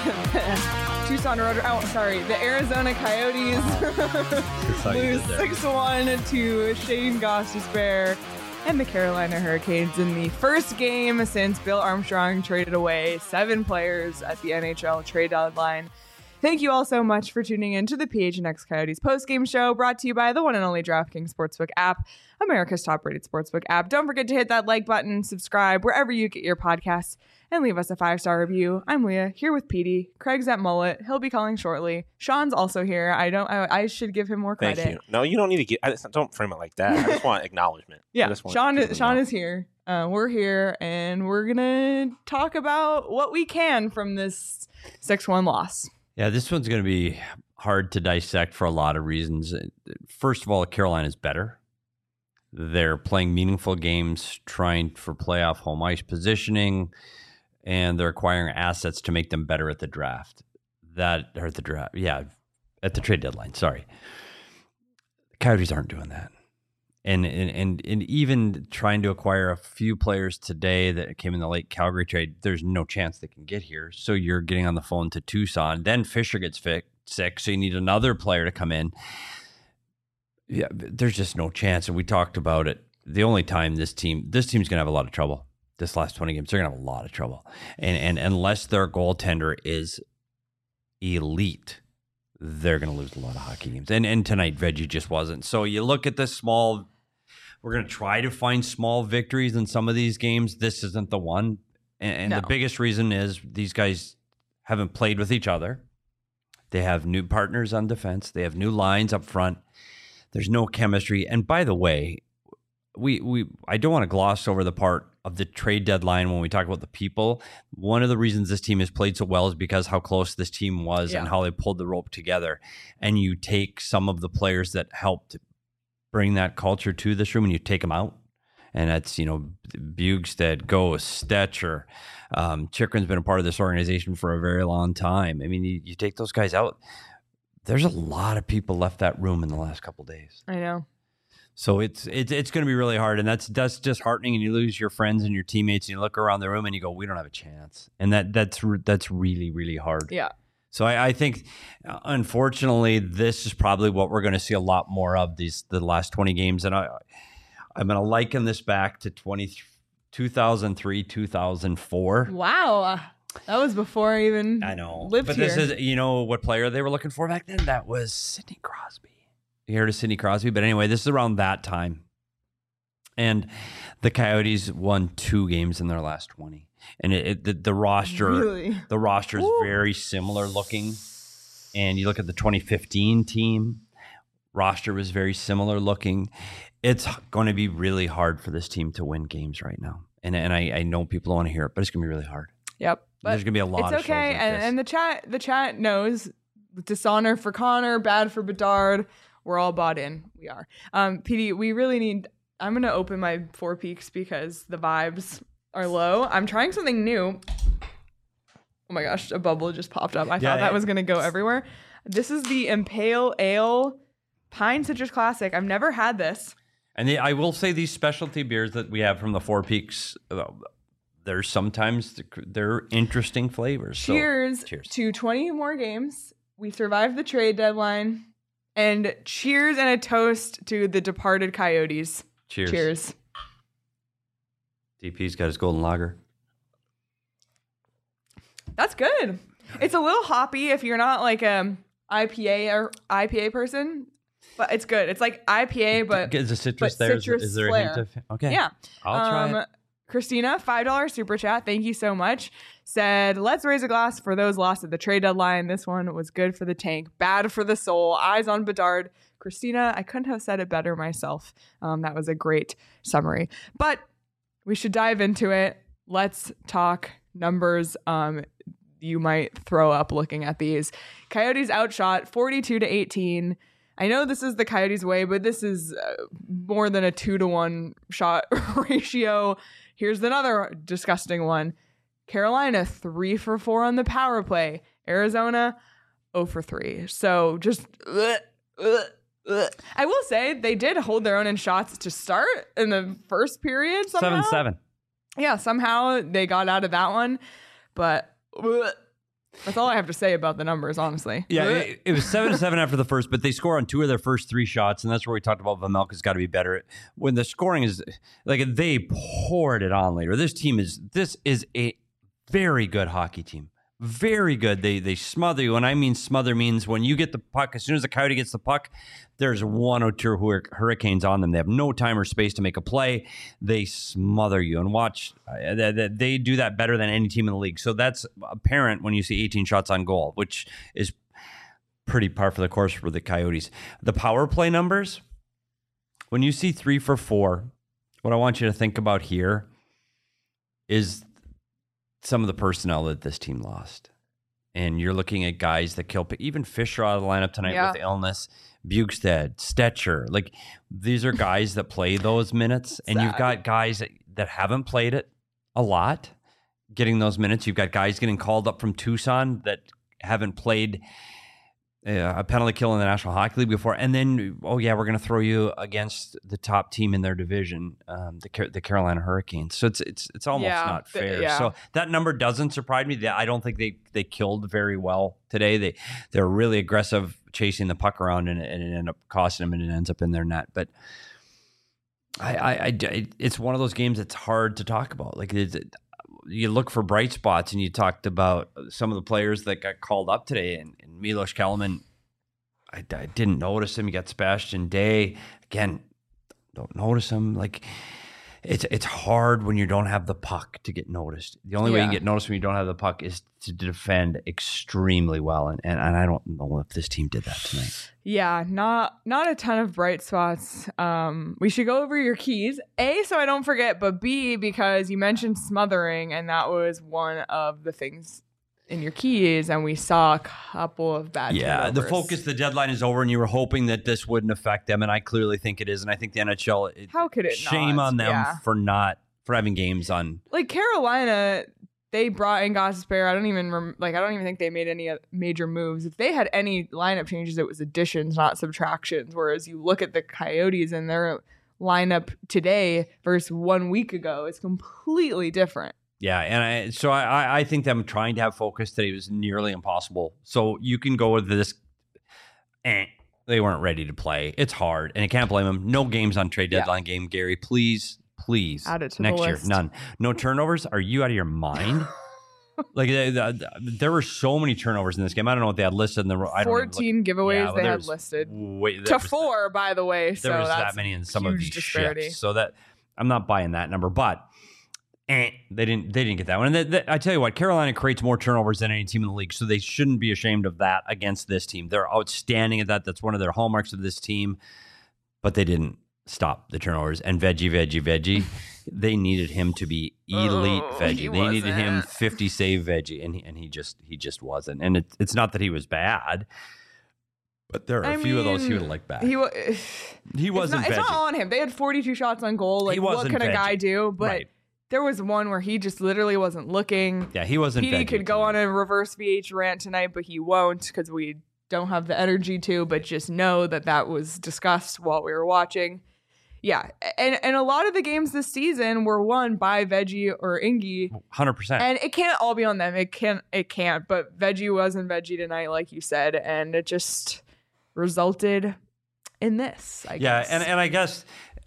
The Arizona Coyotes lose 6-1 to Shane Gostisbehere and the Carolina Hurricanes in the first game since Bill Armstrong traded away 7 players at the NHL trade deadline. Thank you all so much for tuning in to the PHNX Coyotes postgame show, brought to you by the one and only DraftKings Sportsbook app, America's top-rated sportsbook app. Don't forget to hit that like button, subscribe wherever you get your podcasts, and leave us a 5-star review. I'm Leah, here with Petey. Craig's at Mullet. He'll be calling shortly. Sean's also here. I should give him more credit. Thank you. No, you don't need to don't frame it like that. I just want acknowledgement. Yeah, Sean is here. We're here, and we're going to talk about what we can from this 6-1 loss. Yeah, this one's going to be hard to dissect for a lot of reasons. First of all, Carolina's better. They're playing meaningful games, trying for playoff home ice positioning, and they're acquiring assets to make them better at the draft. At the trade deadline. Sorry, the Coyotes aren't doing that, and even trying to acquire a few players today that came in the late Calgary trade. There's no chance they can get here. So you're getting on the phone to Tucson. Then Fisher gets sick, so you need another player to come in. Yeah, there's just no chance. And we talked about it. The only time this team's going to have a lot of trouble. This last 20 games, they're going to have a lot of trouble. And unless their goaltender is elite, they're going to lose a lot of hockey games. And tonight, Veggie just wasn't. So you look at this we're going to try to find small victories in some of these games. This isn't the one. And no. The biggest reason is these guys haven't played with each other. They have new partners on defense. They have new lines up front. There's no chemistry. And by the way, I don't want to gloss over the part of the trade deadline when we talk about the people. One of the reasons this team has played so well is because how close this team was and how they pulled the rope together. And you take some of the players that helped bring that culture to this room and you take them out. And that's, Bugstead, Ghost, Stetcher. Chikrin's been a part of this organization for a very long time. I mean, you take those guys out. There's a lot of people left that room in the last couple of days. I know. So it's going to be really hard, and that's disheartening. And you lose your friends and your teammates, and you look around the room and you go, "We don't have a chance," and that's really, really hard. Yeah. So I think, unfortunately, this is probably what we're going to see a lot more of the last 20 games, and I'm going to liken this back to 2003, 2004. Wow. That was before I even lived but here. This is, what player they were looking for back then? That was Sidney Crosby. You heard of Sidney Crosby? But anyway, this is around that time. And the Coyotes won 2 games in their last 20. And the roster is very similar looking. And you look at the 2015 team, roster was very similar looking. It's going to be really hard for this team to win games right now. And I know people don't want to hear it, but it's going to be really hard. Yep. But there's going to be a lot of shows like this. And the chat knows dishonor for Connor, bad for Bedard. We're all bought in. We are. PD, we really need... I'm going to open my 4 Peaks because the vibes are low. I'm trying something new. Oh my gosh, a bubble just popped up. I thought that was going to go everywhere. This is the Impale Ale Pine Citrus Classic. I've never had this. And I will say these specialty beers that we have from the 4 Peaks... there's sometimes they're interesting flavors. Cheers to 20 more games. We survived the trade deadline. And cheers and a toast to the departed Coyotes. Cheers. DP's got his golden lager. That's good. It's a little hoppy if you're not like a IPA person. But it's good. It's like IPA, but is the citrus there? Is there a hint of... Okay. Yeah. I'll try it. Christina, $5 super chat. Thank you so much. Said, let's raise a glass for those lost at the trade deadline. This one was good for the tank, bad for the soul. Eyes on Bedard. Christina, I couldn't have said it better myself. That was a great summary. But we should dive into it. Let's talk numbers. You might throw up looking at these. Coyotes outshot 42-18. I know this is the Coyotes way, but this is more than a 2-to-1 shot ratio. Here's another disgusting one. Carolina 3 for 4 on the power play. Arizona 0 for 3. So just I will say they did hold their own in shots to start in the first period somehow. 7-7. Yeah, somehow they got out of that one. But That's all I have to say about the numbers, honestly. Yeah, it was 7-7 after the first, but they score on 2 of their first 3 shots, and that's where we talked about Vejmelka's got to be better. When the scoring is like they poured it on later. This is a very good hockey team. Very good. They smother you. And I mean smother means when you get the puck, as soon as the Coyote gets the puck, there's 1 or 2 Hurricanes on them. They have no time or space to make a play. They smother you. And watch, they do that better than any team in the league. So that's apparent when you see 18 shots on goal, which is pretty par for the course for the Coyotes. The power play numbers, when you see 3 for 4, what I want you to think about here is some of the personnel that this team lost. And you're looking at guys that kill, even Fisher out of the lineup tonight with illness, Bukestad, Stetcher. Like, these are guys that play those minutes. And you've got guys that haven't played it a lot getting those minutes. You've got guys getting called up from Tucson that haven't played a penalty kill in the National Hockey League before. And then, we're going to throw you against the top team in their division, the Carolina Hurricanes. So it's almost not fair. So that number doesn't surprise me. I don't think they killed very well today. They're really aggressive chasing the puck around, and it ended up costing them, and it ends up in their net. But it's one of those games that's hard to talk about. Like, you look for bright spots, and you talked about some of the players that got called up today, and Milos Kelemen, I didn't notice him. You got Sebastian Day. Again, don't notice him. Like, it's hard when you don't have the puck to get noticed. The only way you can get noticed when you don't have the puck is to defend extremely well, and I don't know if this team did that tonight. Yeah, not a ton of bright spots. We should go over your keys. A, so I don't forget, but B, because you mentioned smothering, and that was one of the things in your keys, and we saw a couple of bad turnovers. The focus, the deadline is over, and you were hoping that this wouldn't affect them, and I clearly think it is, and I think the NHL, how could it shame not? on them for having games on. Like, Carolina, they brought in Gostisbehere. I don't even think they made any major moves. If they had any lineup changes, it was additions, not subtractions. Whereas you look at the Coyotes and their lineup today versus 1 week ago, it's completely different. Yeah, and I think them trying to have focus today was nearly impossible. So you can go with this. They weren't ready to play. It's hard, and I can't blame them. No games on trade deadline game, Gary. Please add it to next the year. List. None. No turnovers. Are you out of your mind? Like, there were so many turnovers in this game. I don't know what they had listed in the 14 giveaways they had listed to 4, by the way. So there was that's that many in some of these disparity. shifts. So that I'm not buying that number, but they didn't get that one. And I tell you what, Carolina creates more turnovers than any team in the league, so they shouldn't be ashamed of that against this team. They're outstanding at that. That's one of their hallmarks of this team, but they didn't stop the turnovers. And Veggie, they needed him to be elite Veggie. They needed him 50 save Veggie, and he just wasn't. And it's not that he was bad, but there are a few of those he would have liked back. He wasn't. It's not on him. They had 42 shots on goal. Like, what can a guy do? But there was one where he just literally wasn't looking. Yeah, he wasn't. Petey could go on a reverse VH rant tonight, but he won't because we don't have the energy to. But just know that was discussed while we were watching. Yeah, and a lot of the games this season were won by Veggie or Ingy. 100%. And it can't all be on them. It can't. But Veggie wasn't Veggie tonight, like you said, and it just resulted in this, I guess. Yeah, and I guess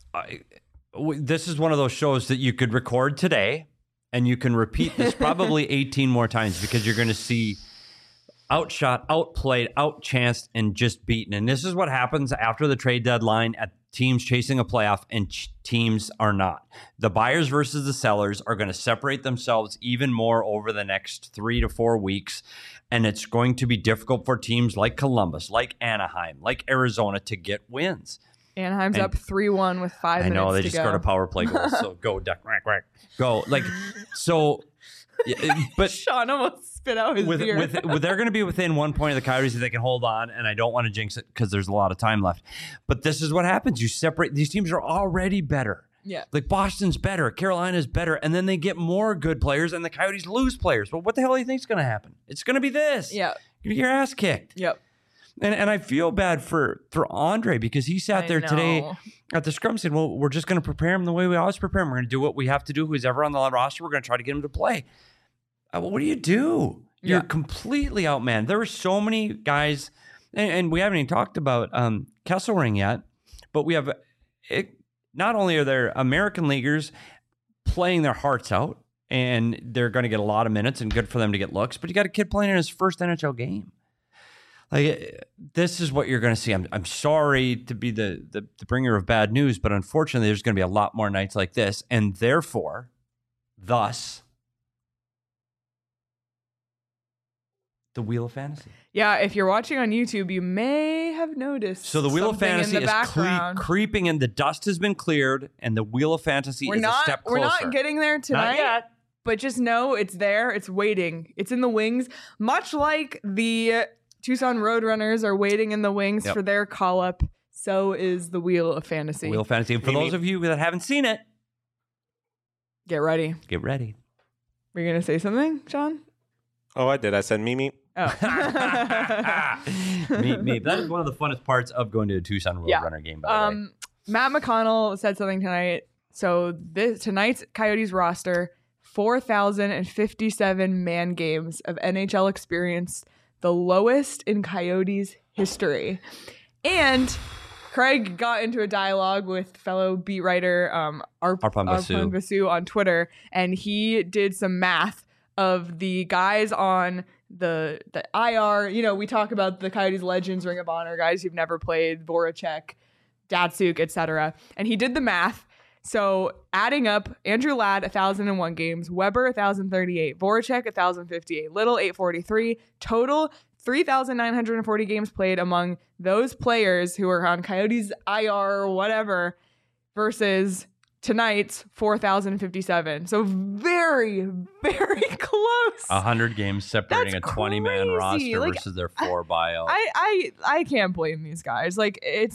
this is one of those shows that you could record today, and you can repeat this probably 18 more times because you're going to see outshot, outplayed, outchanced, and just beaten. And this is what happens after the trade deadline at teams chasing a playoff and teams are not. The buyers versus the sellers are going to separate themselves even more over the next 3 to 4 weeks. And it's going to be difficult for teams like Columbus, like Anaheim, like Arizona to get wins. Anaheim's up 3-1 with 5 minutes to go. I know, they just scored a power play goal. So go, duck, quack, quack. Go. Like, so, but Sean almost spit out his beer. They're going to be within 1 point of the Coyotes if they can hold on, and I don't want to jinx it because there's a lot of time left. But this is what happens. You separate. These teams are already better. Yeah. Like, Boston's better, Carolina's better, and then they get more good players, and the Coyotes lose players. Well, what the hell do you think is going to happen? It's going to be this. Yeah. You're going to get your ass kicked. Yep. And I feel bad for Andre because he sat there today at the scrum saying, well, we're just going to prepare him the way we always prepare him. We're going to do what we have to do. Who's ever on the roster, we're going to try to get him to play. What do? You're Yeah. completely outmanned. There were so many guys, and we haven't even talked about Kesselring yet, but we have not only are there American leaguers playing their hearts out, and they're going to get a lot of minutes and good for them to get looks, but you got a kid playing in his first NHL game. Like, this is what you're going to see. I'm sorry to be the bringer of bad news, but unfortunately, there's going to be a lot more nights like this, and therefore, thus, the Wheel of Fantasy. Yeah, if you're watching on YouTube, you may have noticed. So the Wheel of something Fantasy in the is background. creeping in. The dust has been cleared, and the Wheel of Fantasy is a step closer. We're not getting there tonight. Not yet. But just know it's there. It's waiting. It's in the wings. Much like the Tucson Roadrunners are waiting in the wings Yep. for their call-up, so is the Wheel of Fantasy. Wheel of Fantasy. And for those of you that haven't seen it, Get ready. get ready. Were you going to say something, Sean? Oh, I did. I said Mimi. Oh. me. That is one of the funnest parts of going to a Tucson Roadrunner game, by the way. Matt McConnell said something tonight. So tonight's Coyotes roster, 4,057 man games of NHL experience, the lowest in Coyotes history. And Craig got into a dialogue with fellow beat writer Arpon Basu on Twitter, and he did some math of the guys on the IR. You know, we talk about the Coyotes legends, Ring of Honor, guys who've never played, Voracek, Datsuk, etc. And he did the math. So adding up, Andrew Ladd, 1,001 games, Weber, 1,038, Voracek, 1,058, Little, 843, total 3,940 games played among those players who are on Coyotes IR or whatever versus tonight's 4,057. So very, very close. 100 games separating That's a 20-man crazy. roster Like, versus their 4 buyout. I can't blame these guys. Like, it's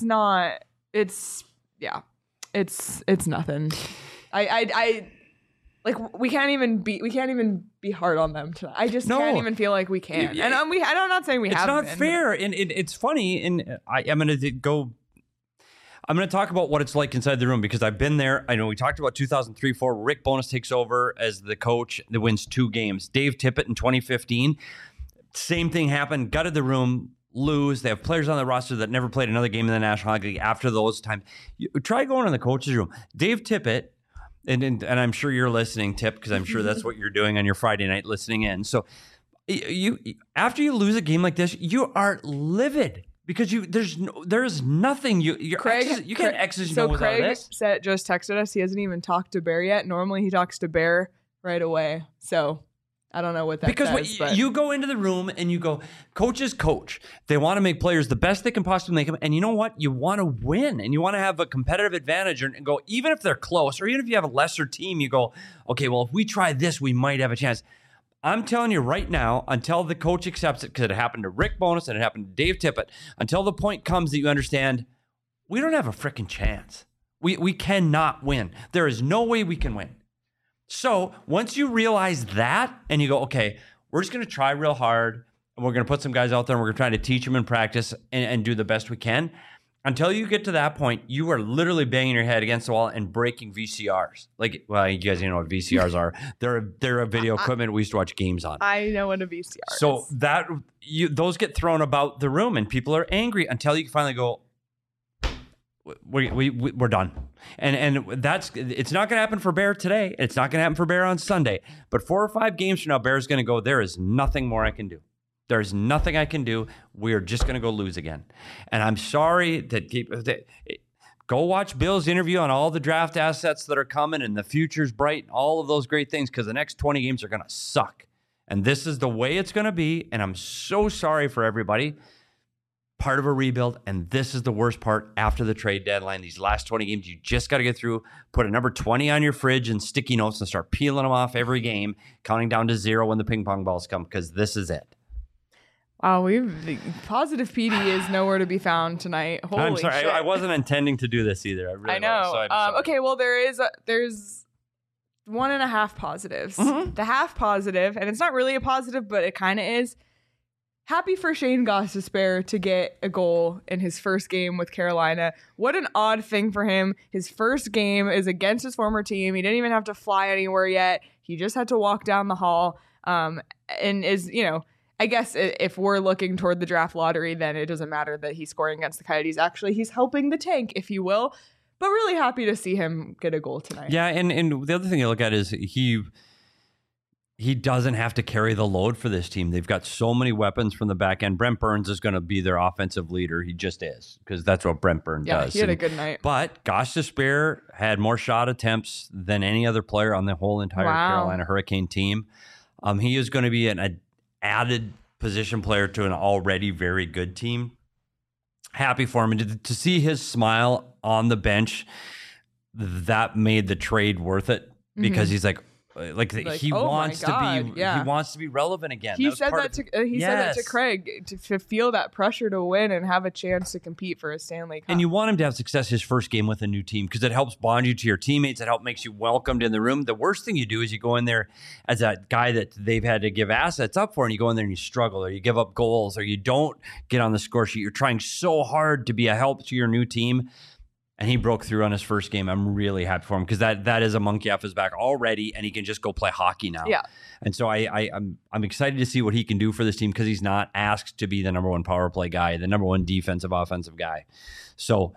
nothing. I like, we can't even be hard on them tonight. I just can't even feel like we can. And I'm not saying we it's haven't. not been, fair, and it's funny. And I'm going to go. I'm going to talk about what it's like inside the room because I've been there. I know we talked about 2003-04. Rick Bowness takes over as the coach that wins 2 games. Dave Tippett in 2015. Same thing happened. Gutted the room. Lose. They have players on the roster that never played another game in the National Hockey League after those times. Try going in the coach's room. Dave Tippett, and I'm sure you're listening, Tip, because I'm sure that's what you're doing on your Friday night, listening in. So you after you lose a game like this, you are livid because there's nothing you can't X's and O's out of this. Craig just texted us. He hasn't even talked to Bear yet. Normally he talks to Bear right away. So I don't know what that says. Because you go into the room and you go, coaches coach. They want to make players the best they can possibly make them. And you know what? You want to win and you want to have a competitive advantage and go, even if they're close or even if you have a lesser team, you go, okay, well, if we try this, we might have a chance. I'm telling you right now, until the coach accepts it, because it happened to Rick Bowness and it happened to Dave Tippett, until the point comes that you understand, we don't have a freaking chance. We cannot win. There is no way we can win. So once you realize that and you go, okay, we're just going to try real hard and we're going to put some guys out there and we're going to try to teach them in practice and do the best we can. Until you get to that point, you are literally banging your head against the wall and breaking VCRs. Like, well, you guys know what VCRs are. They're a video equipment we used to watch games on. I know what a VCR is. So those get thrown about the room and people are angry until you finally go, we're done. And it's not going to happen for Bear today. It's not going to happen for Bear on Sunday. But 4 or 5 games from now, Bear's going to go, there is nothing more I can do. There's nothing I can do. We're just going to go lose again. And I'm sorry that go watch Bill's interview on all the draft assets that are coming and the future's bright, all of those great things, because the next 20 games are going to suck. And this is the way it's going to be. And I'm so sorry for everybody. Part of a rebuild, and this is the worst part after the trade deadline. These last 20 games, you just got to get through, put a number 20 on your fridge and sticky notes and start peeling them off every game, counting down to 0 when the ping pong balls come, because this is it. Wow, the positive PD is nowhere to be found tonight. Holy I'm sorry, shit. I wasn't intending to do this either. I know. Was, so I'm sorry. Okay, well, there's 1.5 positives. Mm-hmm. The half positive, and it's not really a positive, but it kind of is. Happy for Shane Gostisbehere to get a goal in his first game with Carolina. What an odd thing for him. His first game is against his former team. He didn't even have to fly anywhere yet. He just had to walk down the hall. and is, I guess if we're looking toward the draft lottery, then it doesn't matter that he's scoring against the Coyotes. Actually, he's helping the tank, if you will. But really happy to see him get a goal tonight. Yeah, and the other thing you look at is he doesn't have to carry the load for this team. They've got so many weapons from the back end. Brent Burns is going to be their offensive leader. He just is, because that's what Brent Burns does. Yeah, he had a good night. But Gosh Despair had more shot attempts than any other player on the whole entire Carolina Hurricane team. He is going to be an added position player to an already very good team. Happy for him. And to see his smile on the bench, that made the trade worth it, because he's like he wants to be relevant again. He said that to Craig to feel that pressure to win and have a chance to compete for a Stanley Cup. And you want him to have success his first game with a new team, because it helps bond you to your teammates. It helps makes you welcomed in the room. The worst thing you do is you go in there as a guy that they've had to give assets up for, and you go in there and you struggle, or you give up goals, or you don't get on the score sheet. You're trying so hard to be a help to your new team. And he broke through on his first game. I'm really happy for him, because that is a monkey off his back already, and he can just go play hockey now. Yeah. And so I'm excited to see what he can do for this team, because he's not asked to be the number one power play guy, the number one defensive offensive guy. So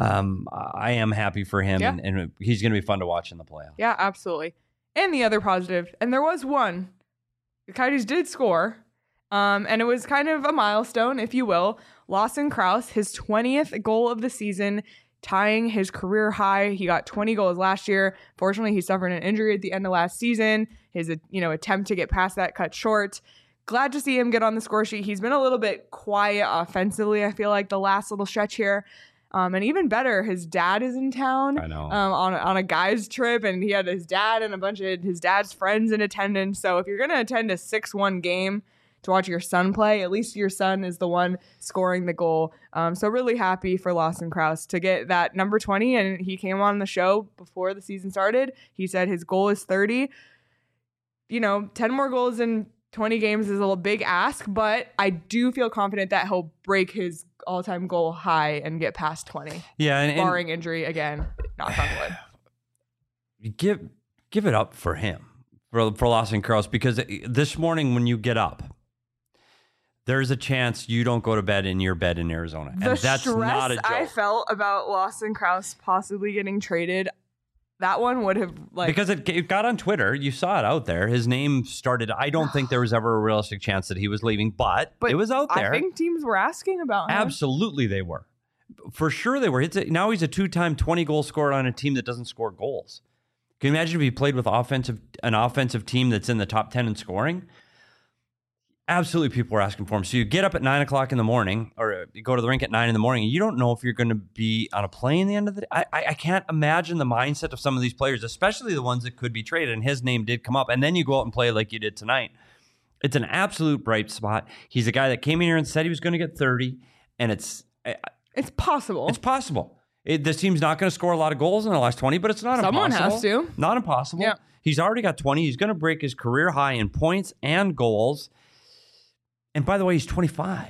I am happy for him, and he's going to be fun to watch in the playoffs. Yeah, absolutely. And the other positive, and there was one, the Coyotes did score, and it was kind of a milestone, if you will. Lawson Crouse, his 20th goal of the season, tying his career high. He got 20 goals last year. Fortunately, he suffered an injury at the end of last season. His attempt to get past that cut short. Glad to see him get on the score sheet. He's been a little bit quiet offensively, I feel like, the last little stretch here. And even better, his dad is in town. I know. On a guy's trip, and he had his dad and a bunch of his dad's friends in attendance. So if you're going to attend a 6-1 game to watch your son play, at least your son is the one scoring the goal. So really happy for Lawson Crouse to get that number 20. And he came on the show before the season started. He said his goal is 30. 10 more goals in 20 games is a big ask, but I do feel confident that he'll break his all-time goal high and get past 20. Yeah, barring injury again, knock on wood. Give it up for him, for Lawson Crouse, because this morning when you get up, there's a chance you don't go to bed in your bed in Arizona. And that's not a joke. I felt about Lawson Crouse possibly getting traded, that one would have because it got on Twitter. You saw it out there. His name started. I don't think there was ever a realistic chance that he was leaving, but it was out there. I think teams were asking about him. Absolutely, they were. For sure, they were. Now he's a 2-time 20-goal scorer on a team that doesn't score goals. Can you imagine if he played with an offensive team that's in the top 10 in scoring? Absolutely, people were asking for him. So you get up at 9 o'clock in the morning, or you go to the rink at 9 in the morning, and you don't know if you're going to be on a plane the end of the day. I can't imagine the mindset of some of these players, especially the ones that could be traded. And his name did come up. And then you go out and play like you did tonight. It's an absolute bright spot. He's a guy that came in here and said he was going to get 30, and it's possible. It's possible. This team's not going to score a lot of goals in the last 20, but it's not impossible. Someone has to. Not impossible. Yeah. He's already got 20. He's going to break his career high in points and goals. And by the way, he's 25.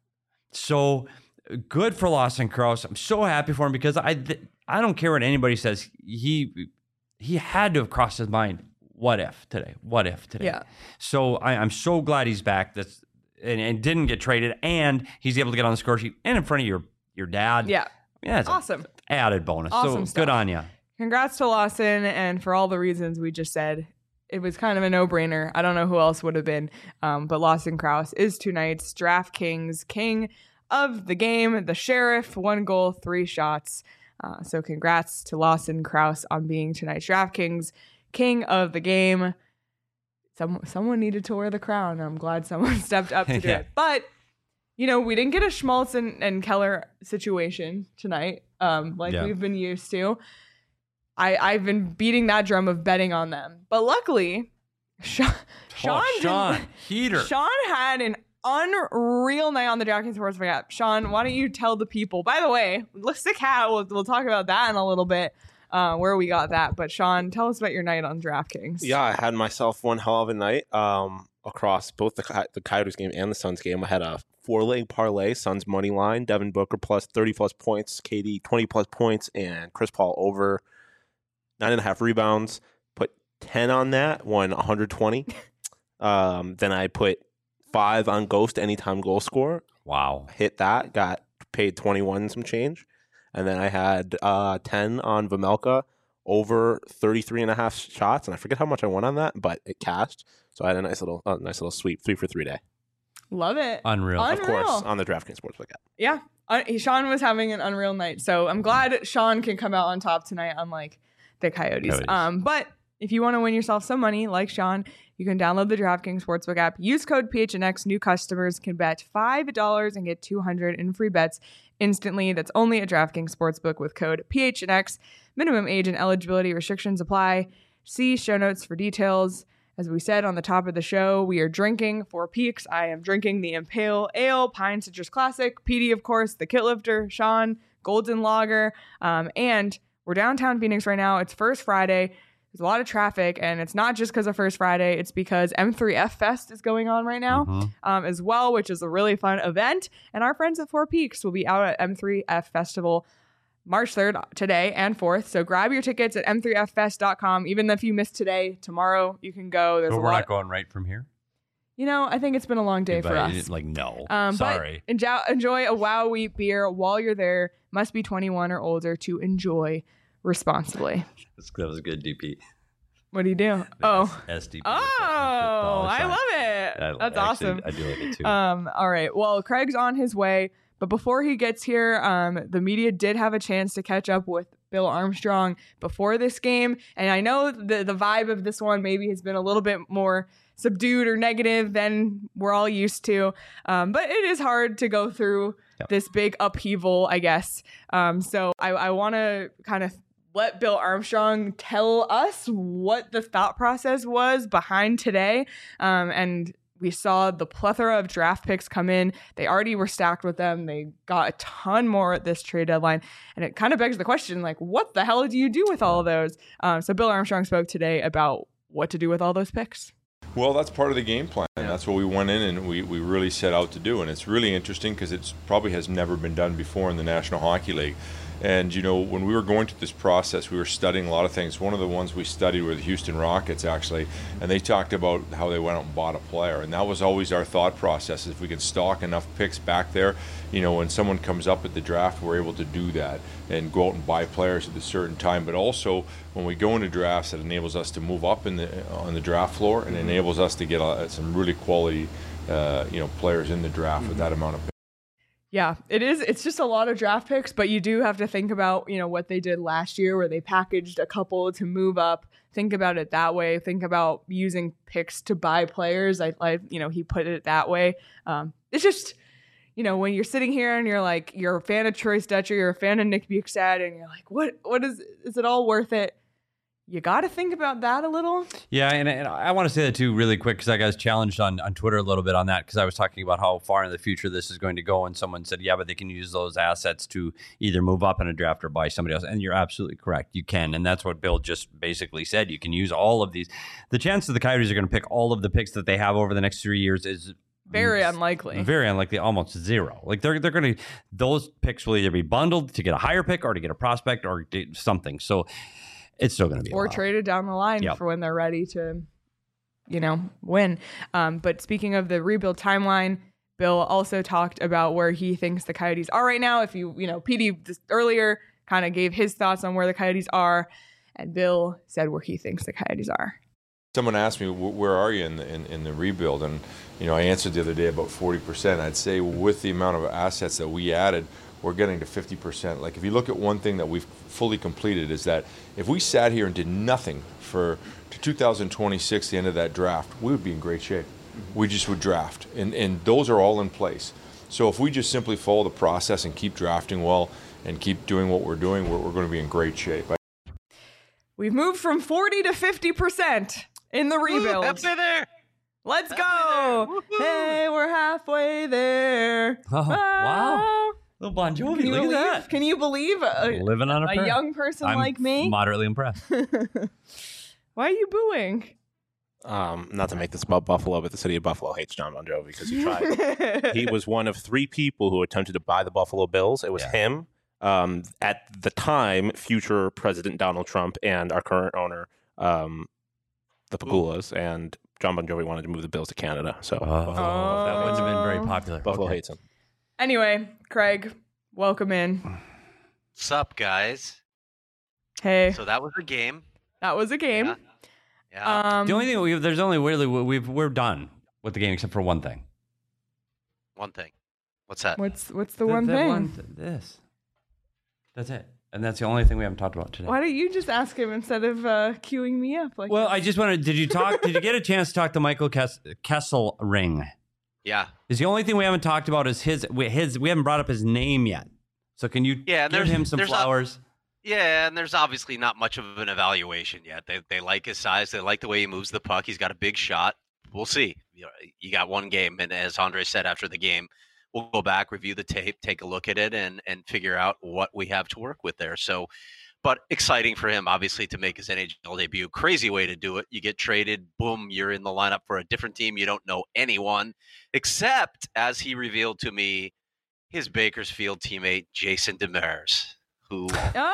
So good for Lawson Crouse. I'm so happy for him, because I don't care what anybody says. He had to have crossed his mind. What if today? What if today? Yeah. So I'm so glad he's back. And didn't get traded, and he's able to get on the score sheet and in front of your dad. Yeah. Yeah. It's awesome. Added bonus. Awesome so good on you. Congrats to Lawson, and for all the reasons we just said. It was kind of a no-brainer. I don't know who else would have been, but Lawson Crouse is tonight's DraftKings king of the game. The Sheriff, 1 goal, 3 shots. So congrats to Lawson Crouse on being tonight's DraftKings king of the game. Someone needed to wear the crown. I'm glad someone stepped up to do it. But, we didn't get a Schmaltz and Keller situation tonight we've been used to. I've been beating that drum of betting on them. But luckily, Sean Heater. Sean had an unreal night on the DraftKings Sportsbook app. Sean, why don't you tell the people? By the way, let's stick hat. We'll talk about that in a little bit, where we got that. But Sean, tell us about your night on DraftKings. Yeah, I had myself one hell of a night across both the Coyotes game and the Suns game. I had a 4-leg parlay, Suns money line, Devin Booker plus 30-plus points, KD 20-plus points, and Chris Paul over 9.5 rebounds. Put 10 on that, won 120. Then I put 5 on Ghost anytime goal score. Wow. Hit that. Got paid 21 and some change. And then I had 10 on Vamelka over 33.5 shots. And I forget how much I won on that, but it cashed. So I had a nice little sweep, 3 for 3 day. Love it. Unreal. Of course, on the DraftKings Sportsbook app. Yeah. Sean was having an unreal night. So I'm glad Sean can come out on top tonight, unlike the Coyotes. But if you want to win yourself some money, like Sean, you can download the DraftKings Sportsbook app. Use code PHNX. New customers can bet $5 and get $200 in free bets instantly. That's only at DraftKings Sportsbook with code PHNX. Minimum age and eligibility restrictions apply. See show notes for details. As we said on the top of the show, we are drinking for Peaks. I am drinking the Impale Ale, Pine Citrus Classic. PD, of course, the Kit Lifter, Sean, Golden Lager. And we're downtown Phoenix right now. It's First Friday. There's a lot of traffic, and it's not just because of First Friday. It's because M3F Fest is going on right now as well, which is a really fun event. And our friends at Four Peaks will be out at M3F Festival March 3rd, today and 4th. So grab your tickets at m3ffest.com. Even if you missed today, tomorrow you can go. There's But a we're lot. not going right from here? I think it's been a long day for us. Like, no. Sorry. But enjoy a Wow Wheat beer while you're there. Must be 21 or older to enjoy responsibly. That was good, DP. What do you do? SDP. I love it. That's awesome. I do like it too. All right. Well, Craig's on his way. But before he gets here, the media did have a chance to catch up with Bill Armstrong before this game. And I know the vibe of this one maybe has been a little bit more subdued or negative than we're all used to. But it is hard to go through this big upheaval, I guess. So I want to kind of let Bill Armstrong tell us what the thought process was behind today. And we saw the plethora of draft picks come in. They already were stacked with them. They got a ton more at this trade deadline. And it kind of begs the question, like, what the hell do you do with all of those? So Bill Armstrong spoke today about what to do with all those picks. Well, that's part of the game plan. And that's what we went in and we really set out to do. And it's really interesting because it probably has never been done before in the National Hockey League. And, when we were going through this process, we were studying a lot of things. One of the ones we studied were the Houston Rockets, actually, and they talked about how they went out and bought a player. And that was always our thought process. If we could stock enough picks back there, when someone comes up at the draft, we're able to do that and go out and buy players at a certain time. But also, when we go into drafts, it enables us to move up on the draft floor and enables us to get some really quality players in the draft with that amount of picks. Yeah, it is. It's just a lot of draft picks, but you do have to think about, what they did last year where they packaged a couple to move up. Think about it that way. Think about using picks to buy players. He put it that way. It's just, when you're sitting here and you're like, you're a fan of Troy Stetcher, you're a fan of Nick Bukestad, and you're like, what is it all worth it? You got to think about that a little. Yeah, and I want to say that too really quick because I got challenged on Twitter a little bit on that because I was talking about how far in the future this is going to go, and someone said, yeah, but they can use those assets to either move up in a draft or buy somebody else. And you're absolutely correct. You can, and that's what Bill just basically said. You can use all of these. The chance that the Coyotes are going to pick all of the picks that they have over the next 3 years is very unlikely. Very unlikely, almost zero. Like they're going to, those picks will either be bundled to get a higher pick or to get a prospect or something. So it's still going to be or traded down the line for when they're ready to, win. But speaking of the rebuild timeline, Bill also talked about where he thinks the Coyotes are right now. If PD just earlier kind of gave his thoughts on where the Coyotes are, and Bill said where he thinks the Coyotes are. Someone asked me, where are you in the rebuild? And, I answered the other day about 40%. I'd say with the amount of assets that we added, we're getting to 50%. Like, if you look at one thing that we've fully completed is that if we sat here and did nothing to 2026, the end of that draft, we would be in great shape. We just would draft. And those are all in place. So if we just simply follow the process and keep drafting well and keep doing what we're doing, we're going to be in great shape. We've moved from 40 to 50% in the rebuild. Halfway there. Let's go. Hey, we're halfway there. Oh, wow. Little Bon Jovi, look at that. Can you believe living on a young person like me? I'm moderately impressed. Why are you booing? Not to make this about Buffalo, but the city of Buffalo hates John Bon Jovi because he tried. He was one of 3 people who attempted to buy the Buffalo Bills. It was him, at the time, future President Donald Trump, and our current owner, the Pagulas, and John Bon Jovi wanted to move the Bills to Canada. So that wouldn't have been very popular. Buffalo Okay. hates him. Anyway, Craig, welcome in. What's up, guys? Hey, So that was a game. that was a game. Yeah. The only thing we're done with the game except for one thing. One thing. What's that? What's the one thing? This. That's it. And that's the only thing we haven't talked about today. Why don't you just ask him instead of queuing me up? Like, Well, I just wanted. Did you get a chance to talk to Michael Kesselring? Yeah. Is the only thing we haven't talked about is his. We haven't brought up his name yet. So can you Yeah, give him some flowers? Yeah, and there's obviously not much of an evaluation yet. They like his size. They like the way he moves the puck. He's got a big shot. We'll see. You got one game, and as Andre said after the game, we'll go back, review the tape, take a look at it, and figure out what we have to work with there. So, but exciting for him, obviously, to make his NHL debut. Crazy way to do it. You get traded, boom, you're in the lineup for a different team. You don't know anyone, except, as he revealed to me, his Bakersfield teammate, Jason Demers, who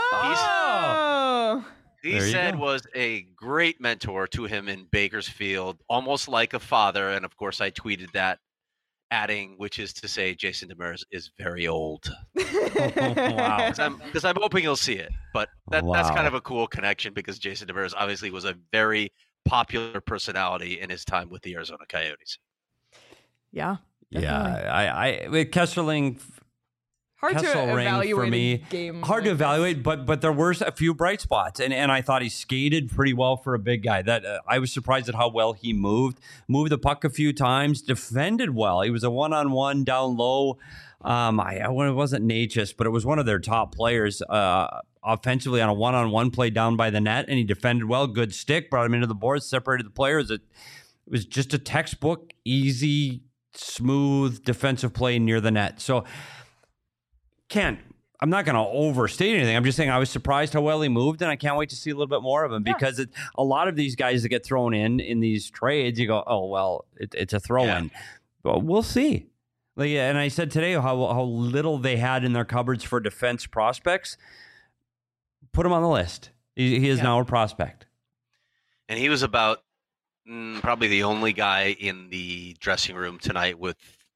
oh, he There you said go. was a great mentor to him in Bakersfield, almost like a father. And of course, I tweeted that, adding, which is to say, Jason Demers is very old. Wow. Because I'm hoping you'll see it. But that's Wow. kind of a cool connection because Jason Demers obviously was a very popular personality in his time with the Arizona Coyotes. yeah. Yeah, I with Kesselring. Hard to Kesselring evaluate for me. a game. Hard to like this. evaluate, but there were a few bright spots, and I thought he skated pretty well for a big guy. That I was surprised at how well he moved the puck a few times, defended well. He was a one-on-one down low. It wasn't Natchez, but it was one of their top players offensively on a one-on-one play down by the net, and he defended well. Good stick, brought him into the boards, separated the players. It was just a textbook, easy, smooth defensive play near the net. So. I'm not going to overstate anything. I'm just saying I was surprised how well he moved, and I can't wait to see a little bit more of him because a lot of these guys that get thrown in these trades, you go, oh, well, it's a throw-in. Well, we'll see. And I said today how little they had in their cupboards for defense prospects. Put him on the list. He is now a prospect. And he was about probably the only guy in the dressing room tonight with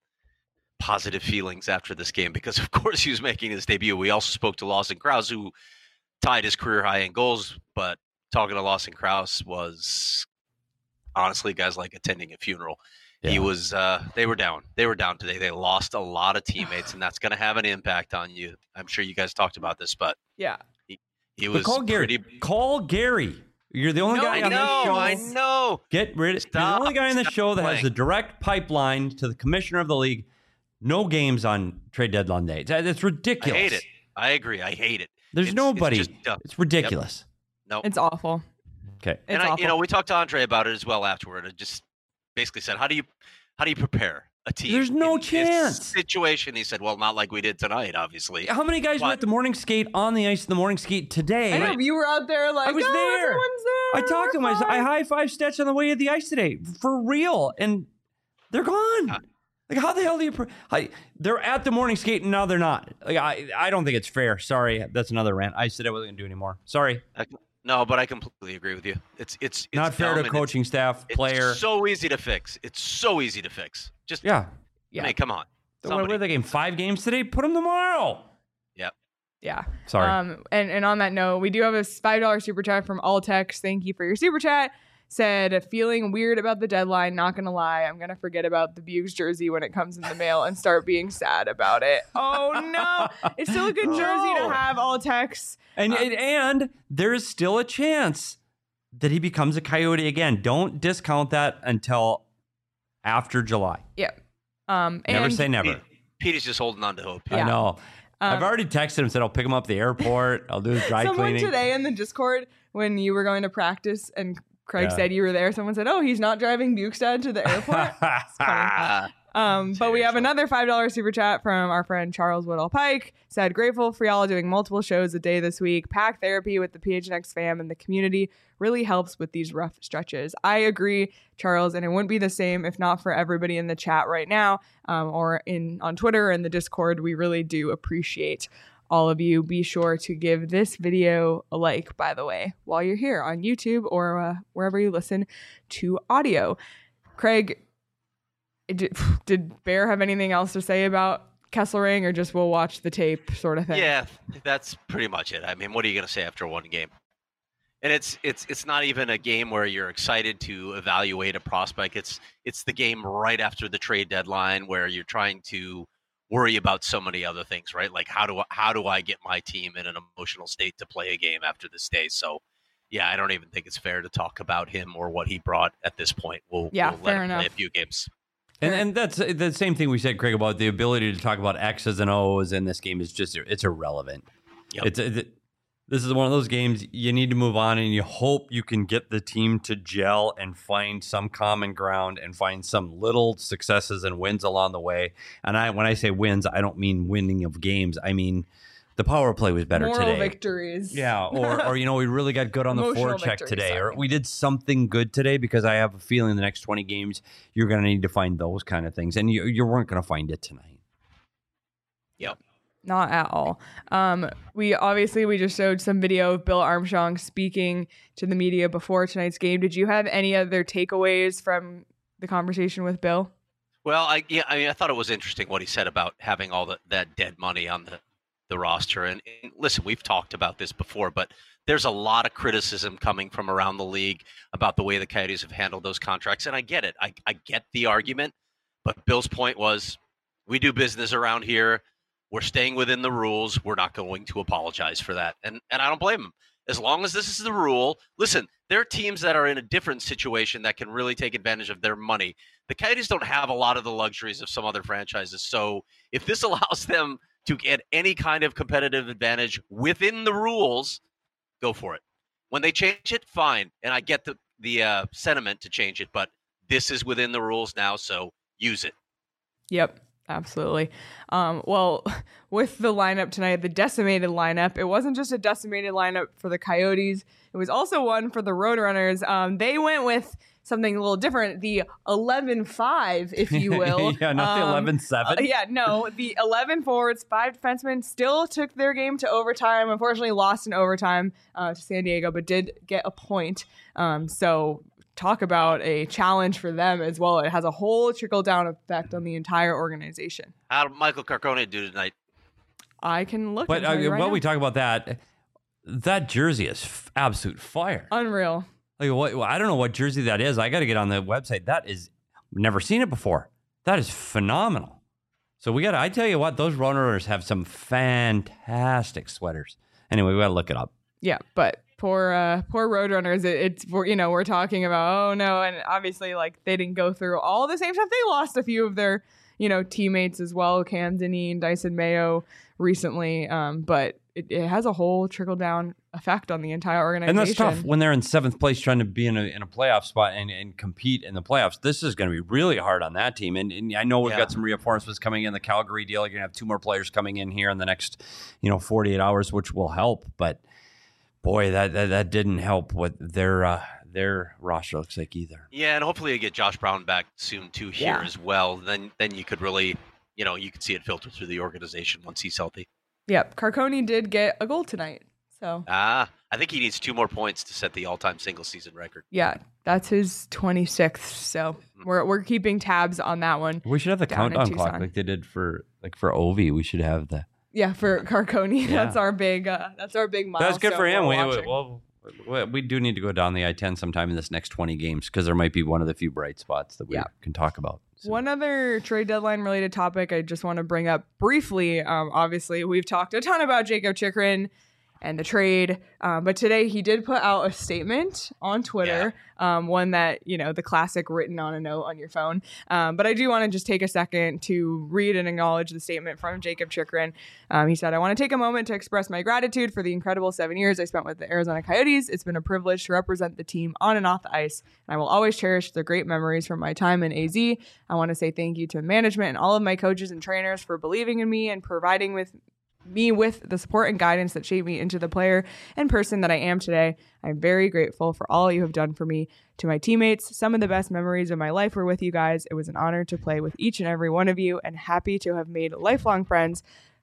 positive feelings after this game because, of course, he was making his debut. We also spoke to Lawson Krause, who tied his career high in goals, but talking to Lawson Krause was honestly, guys, like attending a funeral. Yeah. He was they were down. They were down today. They lost a lot of teammates, and that's going to have an impact on you. I'm sure you guys talked about this, but Yeah. he was call Gary. pretty. Call Gary. You're the only guy on this show. I know. Get rid of. You're the only guy on the show that has the direct pipeline to the commissioner of the league. No games on trade deadline day. That's ridiculous. I hate it. I agree. I hate it. There's nobody. It's just dumb. It's ridiculous. No. It's awful. Okay. It's awful. And we talked to Andre about it as well afterward. I just basically said, how do you prepare a team? There's no in this chance. situation. He said, well, not like we did tonight, obviously. How many guys were at the morning skate on the ice in the morning skate today? I know you were out there like, I was there. Everyone's there. I talked to them. I high-fived Stetch on the way to the ice today. For real. And they're gone. Like, how the hell do you... they're at the morning skate, and now they're not. Like, I don't think it's fair. Sorry. That's another rant. I said I wasn't going to do anymore. Sorry. No, but I completely agree with you. It's Not fair dumb to and coaching staff, player. It's so easy to fix. It's so easy to fix. Just, Yeah. I mean, come on. What were they game? 5 games today? Put them tomorrow. Yep. Yeah. Sorry. And on that note, we do have a $5 super chat from Altex. Thank you for your super chat. Said, feeling weird about the deadline. Not gonna lie, I'm gonna forget about the Bugs jersey when it comes in the mail and start being sad about it. Oh no, it's still a good jersey to have. Altex. And there is still a chance that he becomes a Coyote again. Don't discount that until after July. Yeah. Never say never. Pete is just holding on to hope. I know. I've already texted him, said I'll pick him up at the airport. I'll do his dry Someone cleaning. today in the Discord, when you were going to practice and Craig said you were there, someone said, oh, he's not driving Bukestad to the airport. It's funny. But we have another $5 super chat from our friend Charles Woodall Pike. Said, grateful for y'all doing multiple shows a day this week. Pack therapy with the PHNX fam and the community really helps with these rough stretches. I agree, Charles, and it wouldn't be the same if not for everybody in the chat right now or on Twitter and the Discord. We really do appreciate all of you. Be sure to give this video a like, by the way, while you're here on YouTube or wherever you listen to audio. Craig, did Bear have anything else to say about Kesselring, or just we'll watch the tape sort of thing? Yeah, that's pretty much it. I mean, what are you going to say after one game? And it's not even a game where you're excited to evaluate a prospect. It's the game right after the trade deadline where you're trying to worry about so many other things, right? Like how do I get my team in an emotional state to play a game after this day? So, yeah, I don't even think it's fair to talk about him or what he brought at this point. We'll let him play a few games. And that's the same thing we said, Craig, about the ability to talk about X's and O's in this game is just, it's irrelevant. Yep. This is one of those games you need to move on, and you hope you can get the team to gel and find some common ground and find some little successes and wins along the way. And when I say wins, I don't mean winning of games. I mean the power play was better Moral today. victories. Yeah, or we really got good on the forecheck today, sorry. or we did something good today, because I have a feeling the next 20 games you're going to need to find those kind of things, and you weren't going to find it tonight. Yep. Not at all. We just showed some video of Bill Armstrong speaking to the media before tonight's game. Did you have any other takeaways from the conversation with Bill? Well, I thought it was interesting what he said about having all that dead money on the roster. And listen, we've talked about this before, but there's a lot of criticism coming from around the league about the way the Coyotes have handled those contracts. And I get it. I get the argument. But Bill's point was, we do business around here. We're staying within the rules. We're not going to apologize for that. And I don't blame him. As long as this is the rule. Listen, there are teams that are in a different situation that can really take advantage of their money. The Coyotes don't have a lot of the luxuries of some other franchises. So if this allows them to get any kind of competitive advantage within the rules, go for it. When they change it, fine. And I get the sentiment to change it, but this is within the rules now, so use it. Yep. Absolutely. Well, with the lineup tonight, the decimated lineup, it wasn't just a decimated lineup for the Coyotes. It was also one for the Roadrunners. They went with something a little different, the 11-5, if you will. Yeah, not the 11-7. The 11 forwards, 5 defensemen still took their game to overtime. Unfortunately, lost in overtime to San Diego, but did get a point. So talk about a challenge for them as well. It has a whole trickle-down effect on the entire organization. How did Michael Carcone do tonight? I can look But at while we talk about that jersey is absolute fire. Unreal. Like, I don't know what jersey that is. I got to get on the website. That is, never seen it before. That is phenomenal. So I tell you what, those Roadrunners have some fantastic sweaters. Anyway, we got to look it up. Yeah, but poor Roadrunners. We're talking about, oh no, and obviously like they didn't go through all the same stuff. They lost a few of their teammates as well, Cam Dineen, Dyson Mayo recently, but it has a whole trickle down effect on the entire organization. And that's tough when they're in 7th place trying to be in a playoff spot and compete in the playoffs. This is going to be really hard on that team. And I know we've got some reinforcements coming in. The Calgary deal, you're going to have 2 more players coming in here in the next 48 hours, which will help. But boy, that didn't help what their roster looks like either. Yeah, and hopefully you get Josh Brown back soon too here as well. Then you could really, you could see it filter through the organization once he's healthy. Yep, Carcone did get a goal tonight. So I think he needs 2 more points to set the all-time single-season record. Yeah, that's his 26th. So we're keeping tabs on that one. We should have the countdown clock like they did for Ovi. We should have the for Carcone. Yeah. That's our big milestone. That's good for him. We do need to go down the I-10 sometime in this next 20 games because there might be one of the few bright spots that we can talk about. So. One other trade deadline related topic I just want to bring up briefly. Obviously, we've talked a ton about Jakob Chychrun and the trade, but today he did put out a statement on Twitter, one that, the classic written on a note on your phone. But I do want to just take a second to read and acknowledge the statement from Jakob Chychrun. He said, "I want to take a moment to express my gratitude for the incredible 7 years I spent with the Arizona Coyotes. It's been a privilege to represent the team on and off the ice, and I will always cherish the great memories from my time in AZ. I want to say thank you to management and all of my coaches and trainers for believing in me and providing me with the support and guidance that shaped me into the player and person that I am today. I'm very grateful for all you have done for me. To my teammates, some of the best memories of my life were with you guys. It was an honor to play with each and every one of you and happy to have made lifelong friends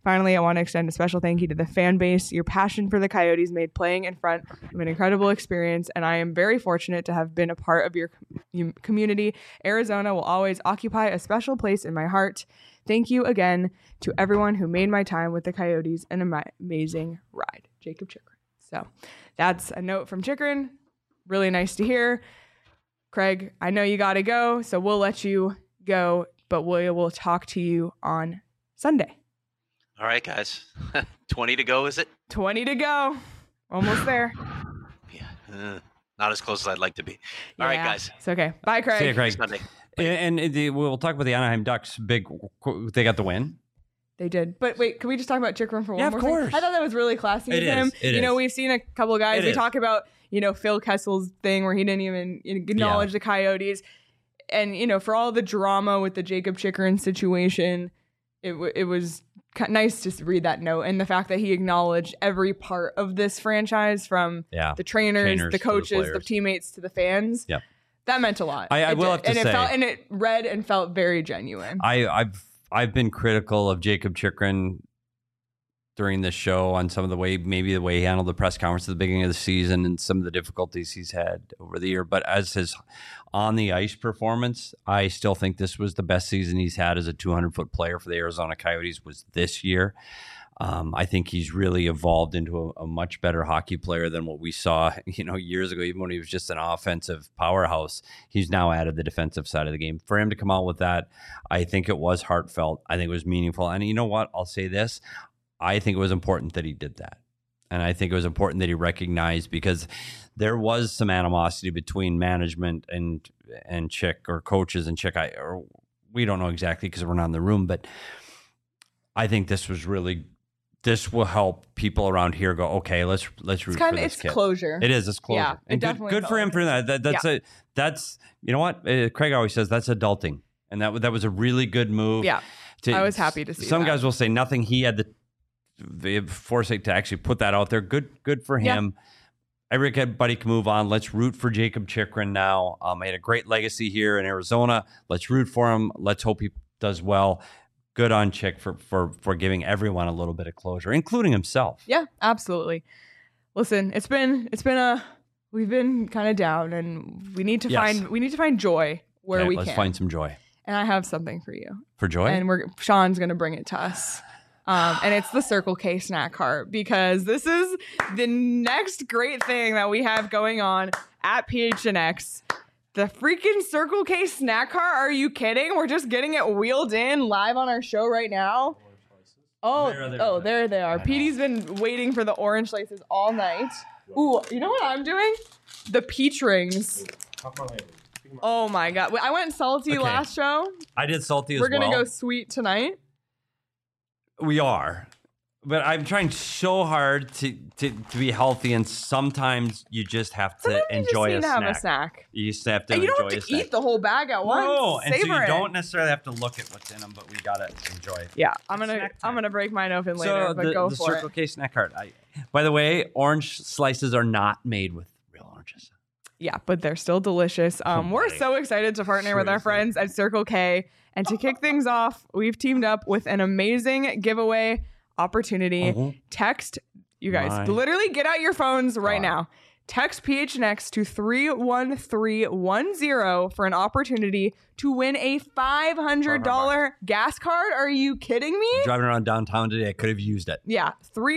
Finally, I want to extend a special thank you to the fan base. Your passion for the Coyotes made playing in front of an incredible experience, and I am very fortunate to have been a part of your community. Arizona will always occupy a special place in my heart. Thank you again to everyone who made my time with the Coyotes an amazing ride. Jacob Chychrun. So that's a note from Chychrun. Really nice to hear. Craig, I know you got to go, so we'll let you go, but we will talk to you on Sunday. All right, guys. 20 to go, is it? 20 to go. Almost there. Yeah. Not as close as I'd like to be. All right, guys. It's okay. Bye, Craig. See you, Craig. Sunday. And we'll talk about the Anaheim Ducks. They got the win. They did. But wait, can we just talk about Chychrun for one more of course. thing? I thought that was really classy of him. We've seen a couple of guys. We talk about, Phil Kessel's thing where he didn't even acknowledge the Coyotes. And, for all the drama with the Jacob Chychrun situation, it was nice to read that note. And the fact that he acknowledged every part of this franchise from the trainers, the coaches, the teammates, to the fans. Yep. That meant a lot. I will have to say. It read and felt very genuine. I've been critical of Jacob Chychrun during this show on some of the way he handled the press conference at the beginning of the season and some of the difficulties he's had over the year. But as his on the ice performance, I still think this was the best season he's had as a 200-foot player for the Arizona Coyotes was this year. I think he's really evolved into a much better hockey player than what we saw, years ago. Even when he was just an offensive powerhouse, he's now added the defensive side of the game. For him to come out with that, I think it was heartfelt. I think it was meaningful. And you know what? I'll say this. I think it was important that he did that. And I think it was important that he recognized, because there was some animosity between management and Chick, or coaches and Chick. We don't know exactly because we're not in the room, but I think this will help people around here go, okay, let's root for this It's kid. Closure. It is. It's closure. Yeah, and good for him for that. That's you know what Craig always says, that's adulting, and that was a really good move. Yeah, I was happy to see. Some guys will say nothing. He had the foresight to actually put that out there. Good for him. Everybody can move on. Let's root for Jacob Chychrun now. He had a great legacy here in Arizona. Let's root for him. Let's hope he does well. Good on Chick for giving everyone a little bit of closure, including himself. Yeah, absolutely. Listen, we've been kind of down, and we need to find joy where we can. Let's find some joy. And I have something for you. For joy? And Sean's going to bring it to us. And it's the Circle K snack cart, because this is the next great thing that we have going on at PHNX. The freaking Circle K snack cart. Are you kidding? We're just getting it wheeled in live on our show right now. There they are. Petey's been waiting for the orange slices all night. Ooh, you know what I'm doing? The peach rings. Oh my God. I went salty last show. I did salty as well. We're going to go sweet tonight. We are. But I'm trying so hard to be healthy, and sometimes you just have to enjoy a snack. You just have to enjoy a snack. You don't have to eat the whole bag at once. No, and so you it. don't necessarily have to look at what's in them, but we gotta enjoy it. Yeah, I'm gonna break mine open later, but go for it. The Circle K snack cart. By the way, orange slices are not made with real oranges. Yeah, but they're still delicious. We're so excited to partner with our friends at Circle K, and to kick things off, we've teamed up with an amazing giveaway opportunity. Text, you guys, literally get out your phones right now. Text PHNX to 31310 for an opportunity to win a $500 gas card. Are you kidding me? Driving around downtown today, I could have used it. Yeah,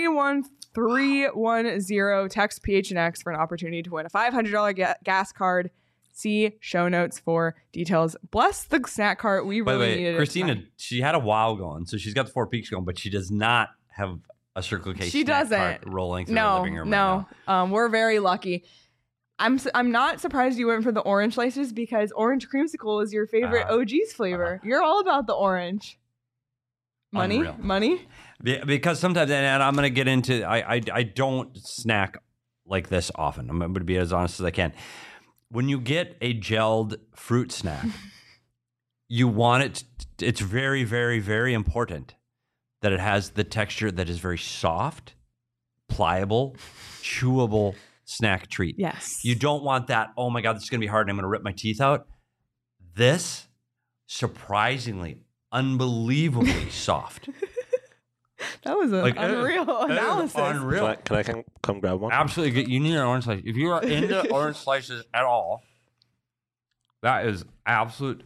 31310. Text PHNX for an opportunity to win a $500 gas card. See show notes for details. Bless the snack cart. We really needed it. Christina, she had a wow going, so she's got the 4 Peaks going, but she does not have a Circle K snack cart rolling through her living room right now. We're very lucky. I'm not surprised you went for the orange slices, because orange creamsicle is your favorite OG's flavor. You're all about the orange. Money? Because sometimes, and I'm going to get into, I don't snack like this often. I'm going to be as honest as I can. When you get a gelled fruit snack, you want it, it's very, very, very important that it has the texture that is very soft, pliable, chewable snack treat. Yes. You don't want that, oh my God, this is going to be hard and I'm going to rip my teeth out. This, surprisingly, unbelievably soft. That was an Like, unreal analysis. Unreal. Can I come grab one? Absolutely. You need an orange slice. If you are into orange slices at all, that is absolute.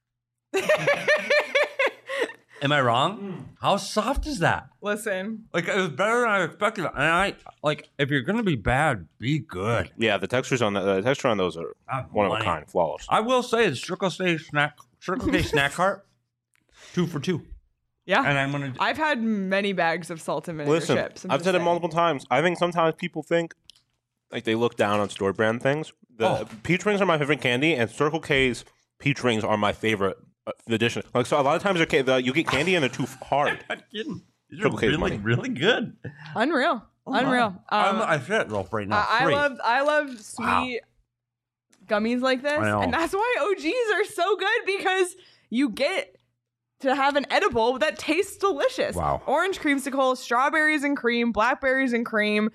Am I wrong? How soft is that? Listen, Like, it was better than I expected. And I like, if you're gonna be bad, be good. Yeah, the texture on those are one of a kind, flawless. I will say the Circle K snack cart, 2 for $2. yeah. And I'm gonna. I've had many bags of salt and vinegar Listen, chips. I'm I've just said it saying. multiple times. I think sometimes people think like they look down on store brand things. The peach rings are my favorite candy, and Circle K's peach rings are my favorite addition. Like, so a lot of times you get candy and they're too hard. I'm not kidding. These are Circle K's really, money. really good. Unreal. Unreal. I said it though right now. I love sweet gummies like this, I know. and that's why OGs are so good because you get to have an edible that tastes delicious. Wow. Orange creamsicle, strawberries and cream, blackberries and cream,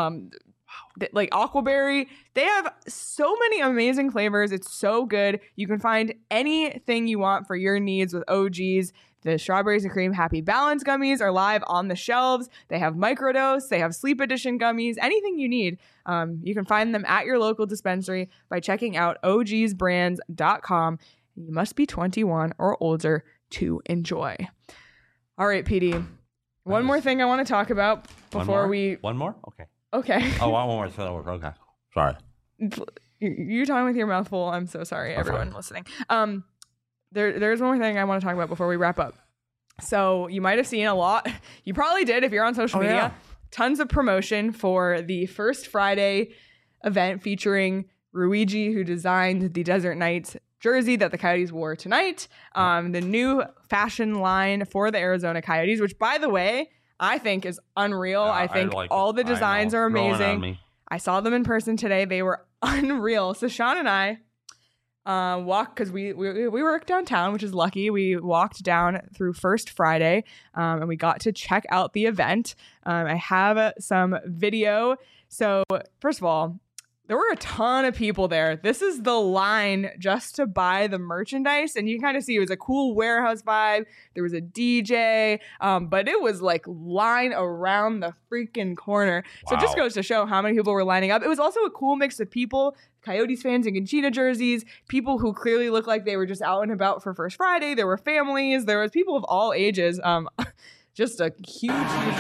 like aquaberry. They have so many amazing flavors. It's so good. You can find anything you want for your needs with OGs. The strawberries and cream Happy Balance gummies are live on the shelves. They have microdose. They have sleep edition gummies. Anything you need, you can find them at your local dispensary by checking out ogsbrands.com. You must be 21 or older to enjoy. All right, PD. One more thing I want to talk about before we... One more? Okay. Okay. Oh, one more. Okay. Sorry. You're talking with your mouth full. I'm so sorry, everyone listening. There's one more thing I want to talk about before we wrap up. So you might have seen a lot. You probably did if you're on social media. Yeah. Tons of promotion for the First Friday event featuring Ruigi, who designed the Desert Knights jersey that the Coyotes wore tonight. The new fashion line for the Arizona Coyotes, which, by the way, I think is unreal. I think like all it. the designs are Growing on amazing. me. I saw them in person today. They were unreal. So Sean and I walked, because we work downtown, which is lucky. We walked down through First Friday and we got to check out the event. I have some video. So first of all, there were a ton of people there. This is the line just to buy the merchandise. And you can kind of see it was a cool warehouse vibe. There was a DJ, but it was like line around the freaking corner. So it just Wow. goes to show how many people were lining up. It was also a cool mix of people, Coyotes fans in Conchita jerseys, people who clearly looked like they were just out and about for First Friday. There were families. There was people of all ages. Just a huge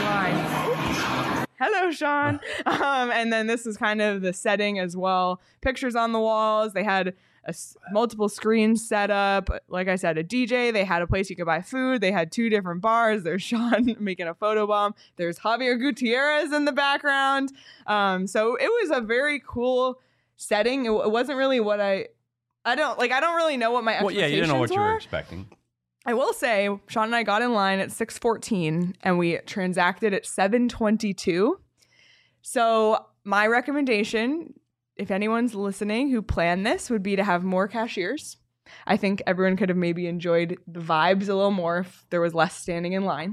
line. Hello, Sean. And then this is kind of the setting as well. Pictures on the walls. They had multiple screens set up. Like I said, a DJ. They had a place you could buy food. They had 2 different bars. There's Sean making a photo bomb. There's Javier Gutierrez in the background. So it was a very cool setting. It wasn't really what I don't really know what my expectations Well, yeah, you didn't know what you were were. expecting. I will say, Sean and I got in line at 6:14 and we transacted at 7:22. So my recommendation, if anyone's listening who planned this, would be to have more cashiers. I think everyone could have maybe enjoyed the vibes a little more if there was less standing in line.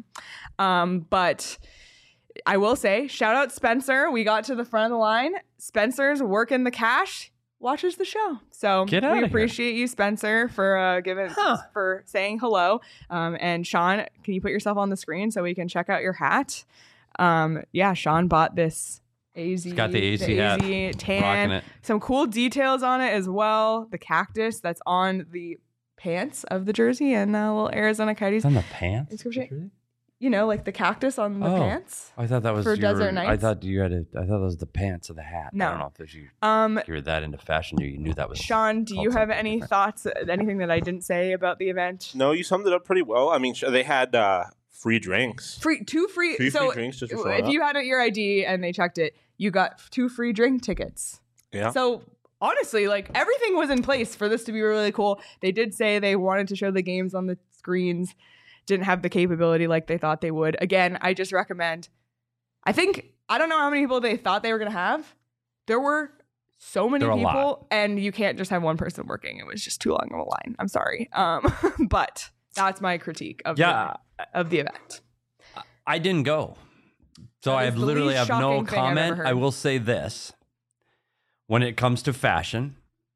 But I will say, shout out Spencer. We got to the front of the line. Spencer's working the cash. Watches the show. So Get outta we here. appreciate you, Spencer, for for saying hello. And Sean, can you put yourself on the screen so we can check out your hat? Yeah, Sean bought this AZ. He's got the AZ hat. tan. Rocking it. Some cool details on it as well. The cactus that's on the pants of the jersey and a little Arizona Coyotes. It's on the pants. Inscription. You know, like the cactus on the Oh. pants. I thought that was For Desert Nights? I thought that was the pants of the hat. No. I don't know if you were that into fashion. You knew that was. Sean, do you called have something any different. thoughts? Anything that I didn't say about the event? No, you summed it up pretty well. I mean, they had free drinks. Two free. Three So free drinks just for showing if up. you had your ID and they checked it, you got 2 free drink tickets. Yeah. So honestly, like everything was in place for this to be really cool. They did say they wanted to show the games on the screens, didn't have the capability like they thought they would. Again, I just recommend. I don't know how many people they thought they were going to have. There were so many There were a people, lot. and you can't just have one person working. It was just too long of a line. I'm sorry. But that's my critique of the event. I didn't go, so That I is the literally least have no shocking thing I've ever comment. heard. I will say this: when it comes to fashion,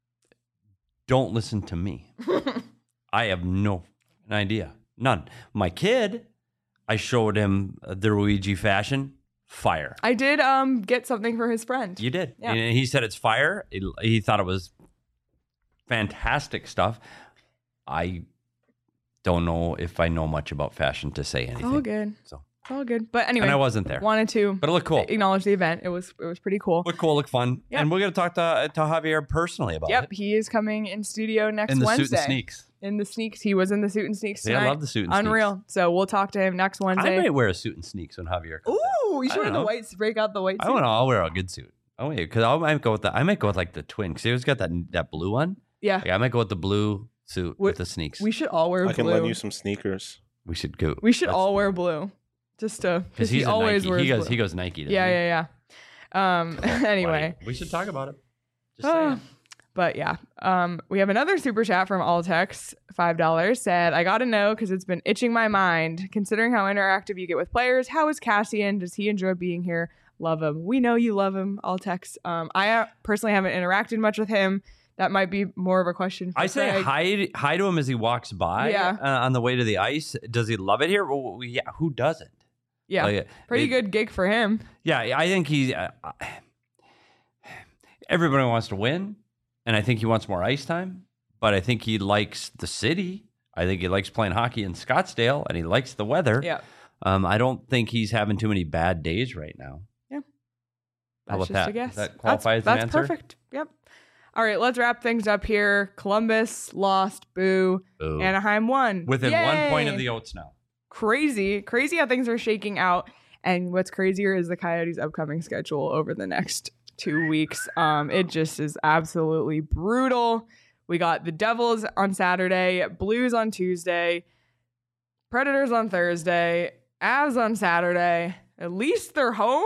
don't listen to me. I have no idea, none. My kid, I showed him the Luigi fashion. Fire. I did get something for his friend. You did. Yeah. And he said it's fire. He thought it was fantastic stuff. I don't know if I know much about fashion to say anything. All good. So. All good. But anyway, And I wasn't there. Wanted to But it looked cool. acknowledge the event. It was pretty cool. Look cool, look fun. Yep. And we're going to talk to Javier personally about Yep, it. he is coming in studio next In the Wednesday. suit and sneaks. In the sneaks. He was in the suit and sneaks Yeah, tonight. I love the suit and Unreal. sneaks. So we'll talk to him next Wednesday. I might wear a suit and sneaks when Javier comes in. Ooh, you I should wear don't the know. white, break out the white I suit. want to. I'll wear a good suit. Oh wait, because I might go with like the twin. Because he always got that blue one. Yeah. Like, I might go with the blue suit with the sneaks. We should all wear I can blue. lend you some sneakers. We should go. We should all wear blue. Just to, because he he's always a wears Nike. blue. He goes Nike. doesn't Yeah. he? Anyway. Buddy, we should talk about it. Just Oh, saying. but yeah, we have another super chat from Altex, $5, said, I got to know because it's been itching my mind. Considering how interactive you get with players, how is Cassian? Does he enjoy being here? Love him. We know you love him, Altex. I personally haven't interacted much with him. That might be more of a question for I say Craig. hi to him as he walks by Yeah. on the way to the ice. Does he love it here? Well, yeah, who doesn't? Yeah, Like, pretty good gig for him. Yeah, I think he's. Everybody wants to win, and I think he wants more ice time. But I think he likes the city. I think he likes playing hockey in Scottsdale, and he likes the weather. Yeah. I don't think he's having too many bad days right now. Yeah. How That's about just that? a guess. Does that qualify as an That's answer? perfect. Yep. All right, let's wrap things up here. Columbus lost. Boo. Boo. Anaheim won. Within 1 point of Yay. the Oats now. Crazy how things are shaking out. And what's crazier is the Coyotes' upcoming schedule over the next 2 weeks. It just is absolutely brutal. We got the Devils on Saturday, Blues on Tuesday, Predators on Thursday, Avs on Saturday. At least they're home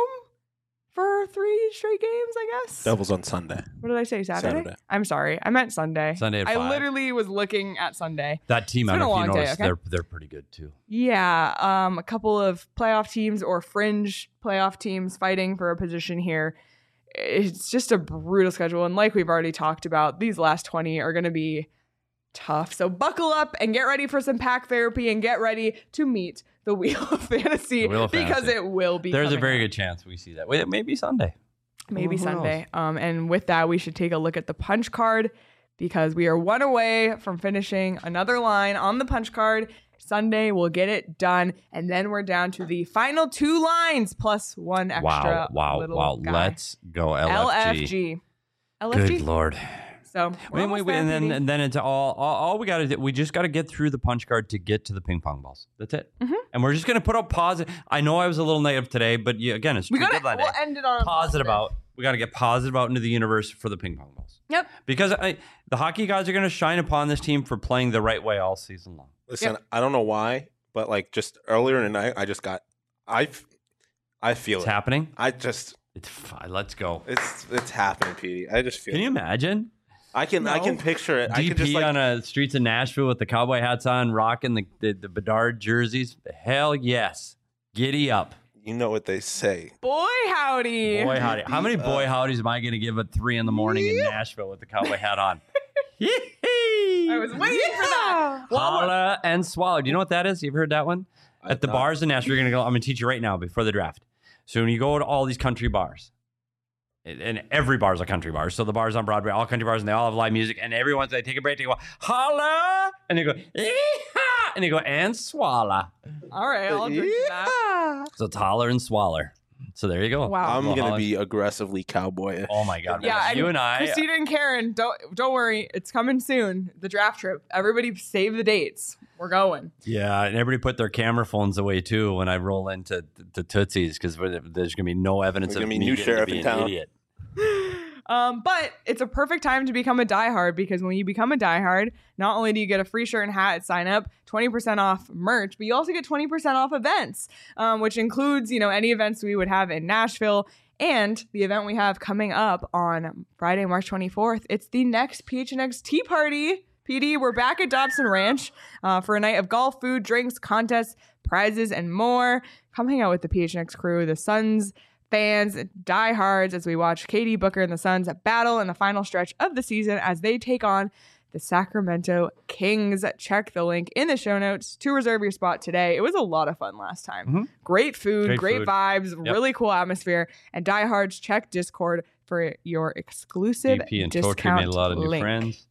for 3 straight games, I guess. Devils on Sunday. What did I say? Saturday? I'm sorry. I meant Sunday. Sunday at I 5. literally was looking at Sunday. That team, It's I been don't a know if you long day, noticed, okay? they're pretty good too. Yeah, a couple of playoff teams or fringe playoff teams fighting for a position here. It's just a brutal schedule. And like we've already talked about, these last 20 are going to be tough. So buckle up and get ready for some pack therapy and get ready to meet the Wheel of Fantasy The Wheel of because Fantasy. it will be There's a coming very up. good chance we see that. Wait, maybe Sunday. Maybe Who Sunday. And with that, we should take a look at the punch card because we are one away from finishing another line on the punch card. Sunday, we'll get it done. And then we're down to the final 2 lines plus 1 extra. Wow. little guy. Let's go LFG. LFG. Good Lord. So Wait, and then it's all we got to do. We just got to get through the punch card to get to the ping pong balls. That's it. Mm-hmm. And we're just going to put out positive. I know I was a little negative today, but again, it's we'll deadline day. end it on a Positive out. We got to get positive out into the universe for the ping pong balls. Yep. Because the hockey guys are going to shine upon this team for playing the right way all season long. Listen, I don't know why, but like just earlier in the night, I feel It's it. happening. It's fine. Let's go. it's happening, Petey. I just feel. Can you it. imagine? I can picture it. I can DP just like on the streets of Nashville with the cowboy hats on, rocking the Bedard jerseys. Hell yes. Giddy up. you know what they say. Boy howdy. Boy howdy. How many boy howdies am I going to give at 3 a.m. in Nashville with the cowboy hat on? I was waiting for that. Holla and swallow. Do you know what that is? You've heard that one? At the bars in Nashville, you're going to go, I'm going to teach you right now before the draft. So when you go to all these country bars, and every bar is a country bar. So the bars on Broadway, all country bars, and they all have live music. And everyone's, they take a break, they go, holla, and they go, ee-haw, and they go, and swallow. All right, I'll drink to that. So it's holler and swaller. So there you go. Wow. I'm Well, gonna holla- be aggressively cowboy. Oh my God. Yeah, you and I. Christina and Karen, don't worry, it's coming soon. The draft trip. Everybody save the dates. We're going. Yeah, and everybody put their camera phones away too when I roll into the Tootsies because there's going to be no evidence There's of gonna be me new getting to sheriff be in an town. idiot. But it's a perfect time to become a diehard because when you become a diehard, not only do you get a free shirt and hat at sign up, 20% off merch, but you also get 20% off events, which includes, any events we would have in Nashville and the event we have coming up on Friday, March 24th. It's the next PHNX Tea Party. PD, we're back at Dobson Ranch for a night of golf, food, drinks, contests, prizes, and more. Come hang out with the PHNX crew, the Suns fans, diehards, as we watch Katie Booker and the Suns battle in the final stretch of the season as they take on the Sacramento Kings. Check the link in the show notes to reserve your spot today. It was a lot of fun last time. Mm-hmm. Great food, great food. vibes, Yep. really cool atmosphere. And diehards, check Discord for your exclusive DP and discount Totri made a lot of new link. friends.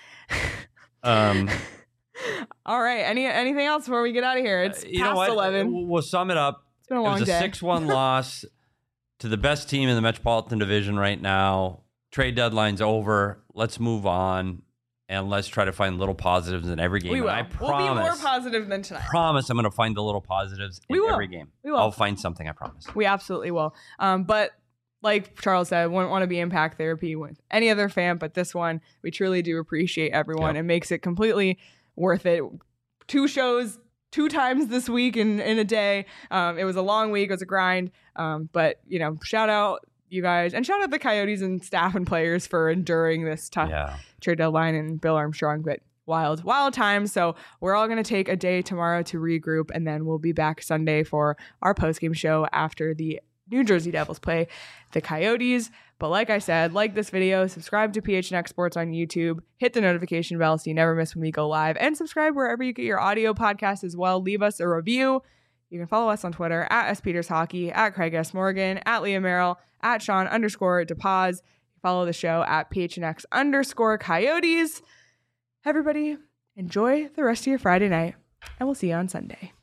All right. Anything else before we get out of here? It's You know past what? 11. We'll sum it up. It's been a It long was a day. 6-1 loss to the best team in the Metropolitan Division right now. Trade deadline's over. Let's move on, and let's try to find little positives in every game. We will. And I promise, We'll be more positive than tonight. I'm going to find the little positives in We will. every game. We will. I'll find something, I promise. We absolutely will. But like Charles said, wouldn't want to be impact therapy with any other fan, but this one, we truly do appreciate everyone. Yep. It makes it completely worth it. 2 shows, 2 times this week in a day. It was a long week. It was a grind. But, shout out you guys and shout out the Coyotes and staff and players for enduring this tough trade deadline and Bill Armstrong. But wild times. So we're all going to take a day tomorrow to regroup, and then we'll be back Sunday for our postgame show after the New Jersey Devils play the Coyotes. But like I said, like this video, subscribe to PHNX Sports on YouTube, hit the notification bell so you never miss when we go live, and subscribe wherever you get your audio podcasts as well. Leave us a review. You can follow us on Twitter at SPetersHockey, at Craig S. Morgan, at Leah Merrill, at Sean_DePaz. Follow the show at PHNX_Coyotes. Everybody, enjoy the rest of your Friday night, and we'll see you on Sunday.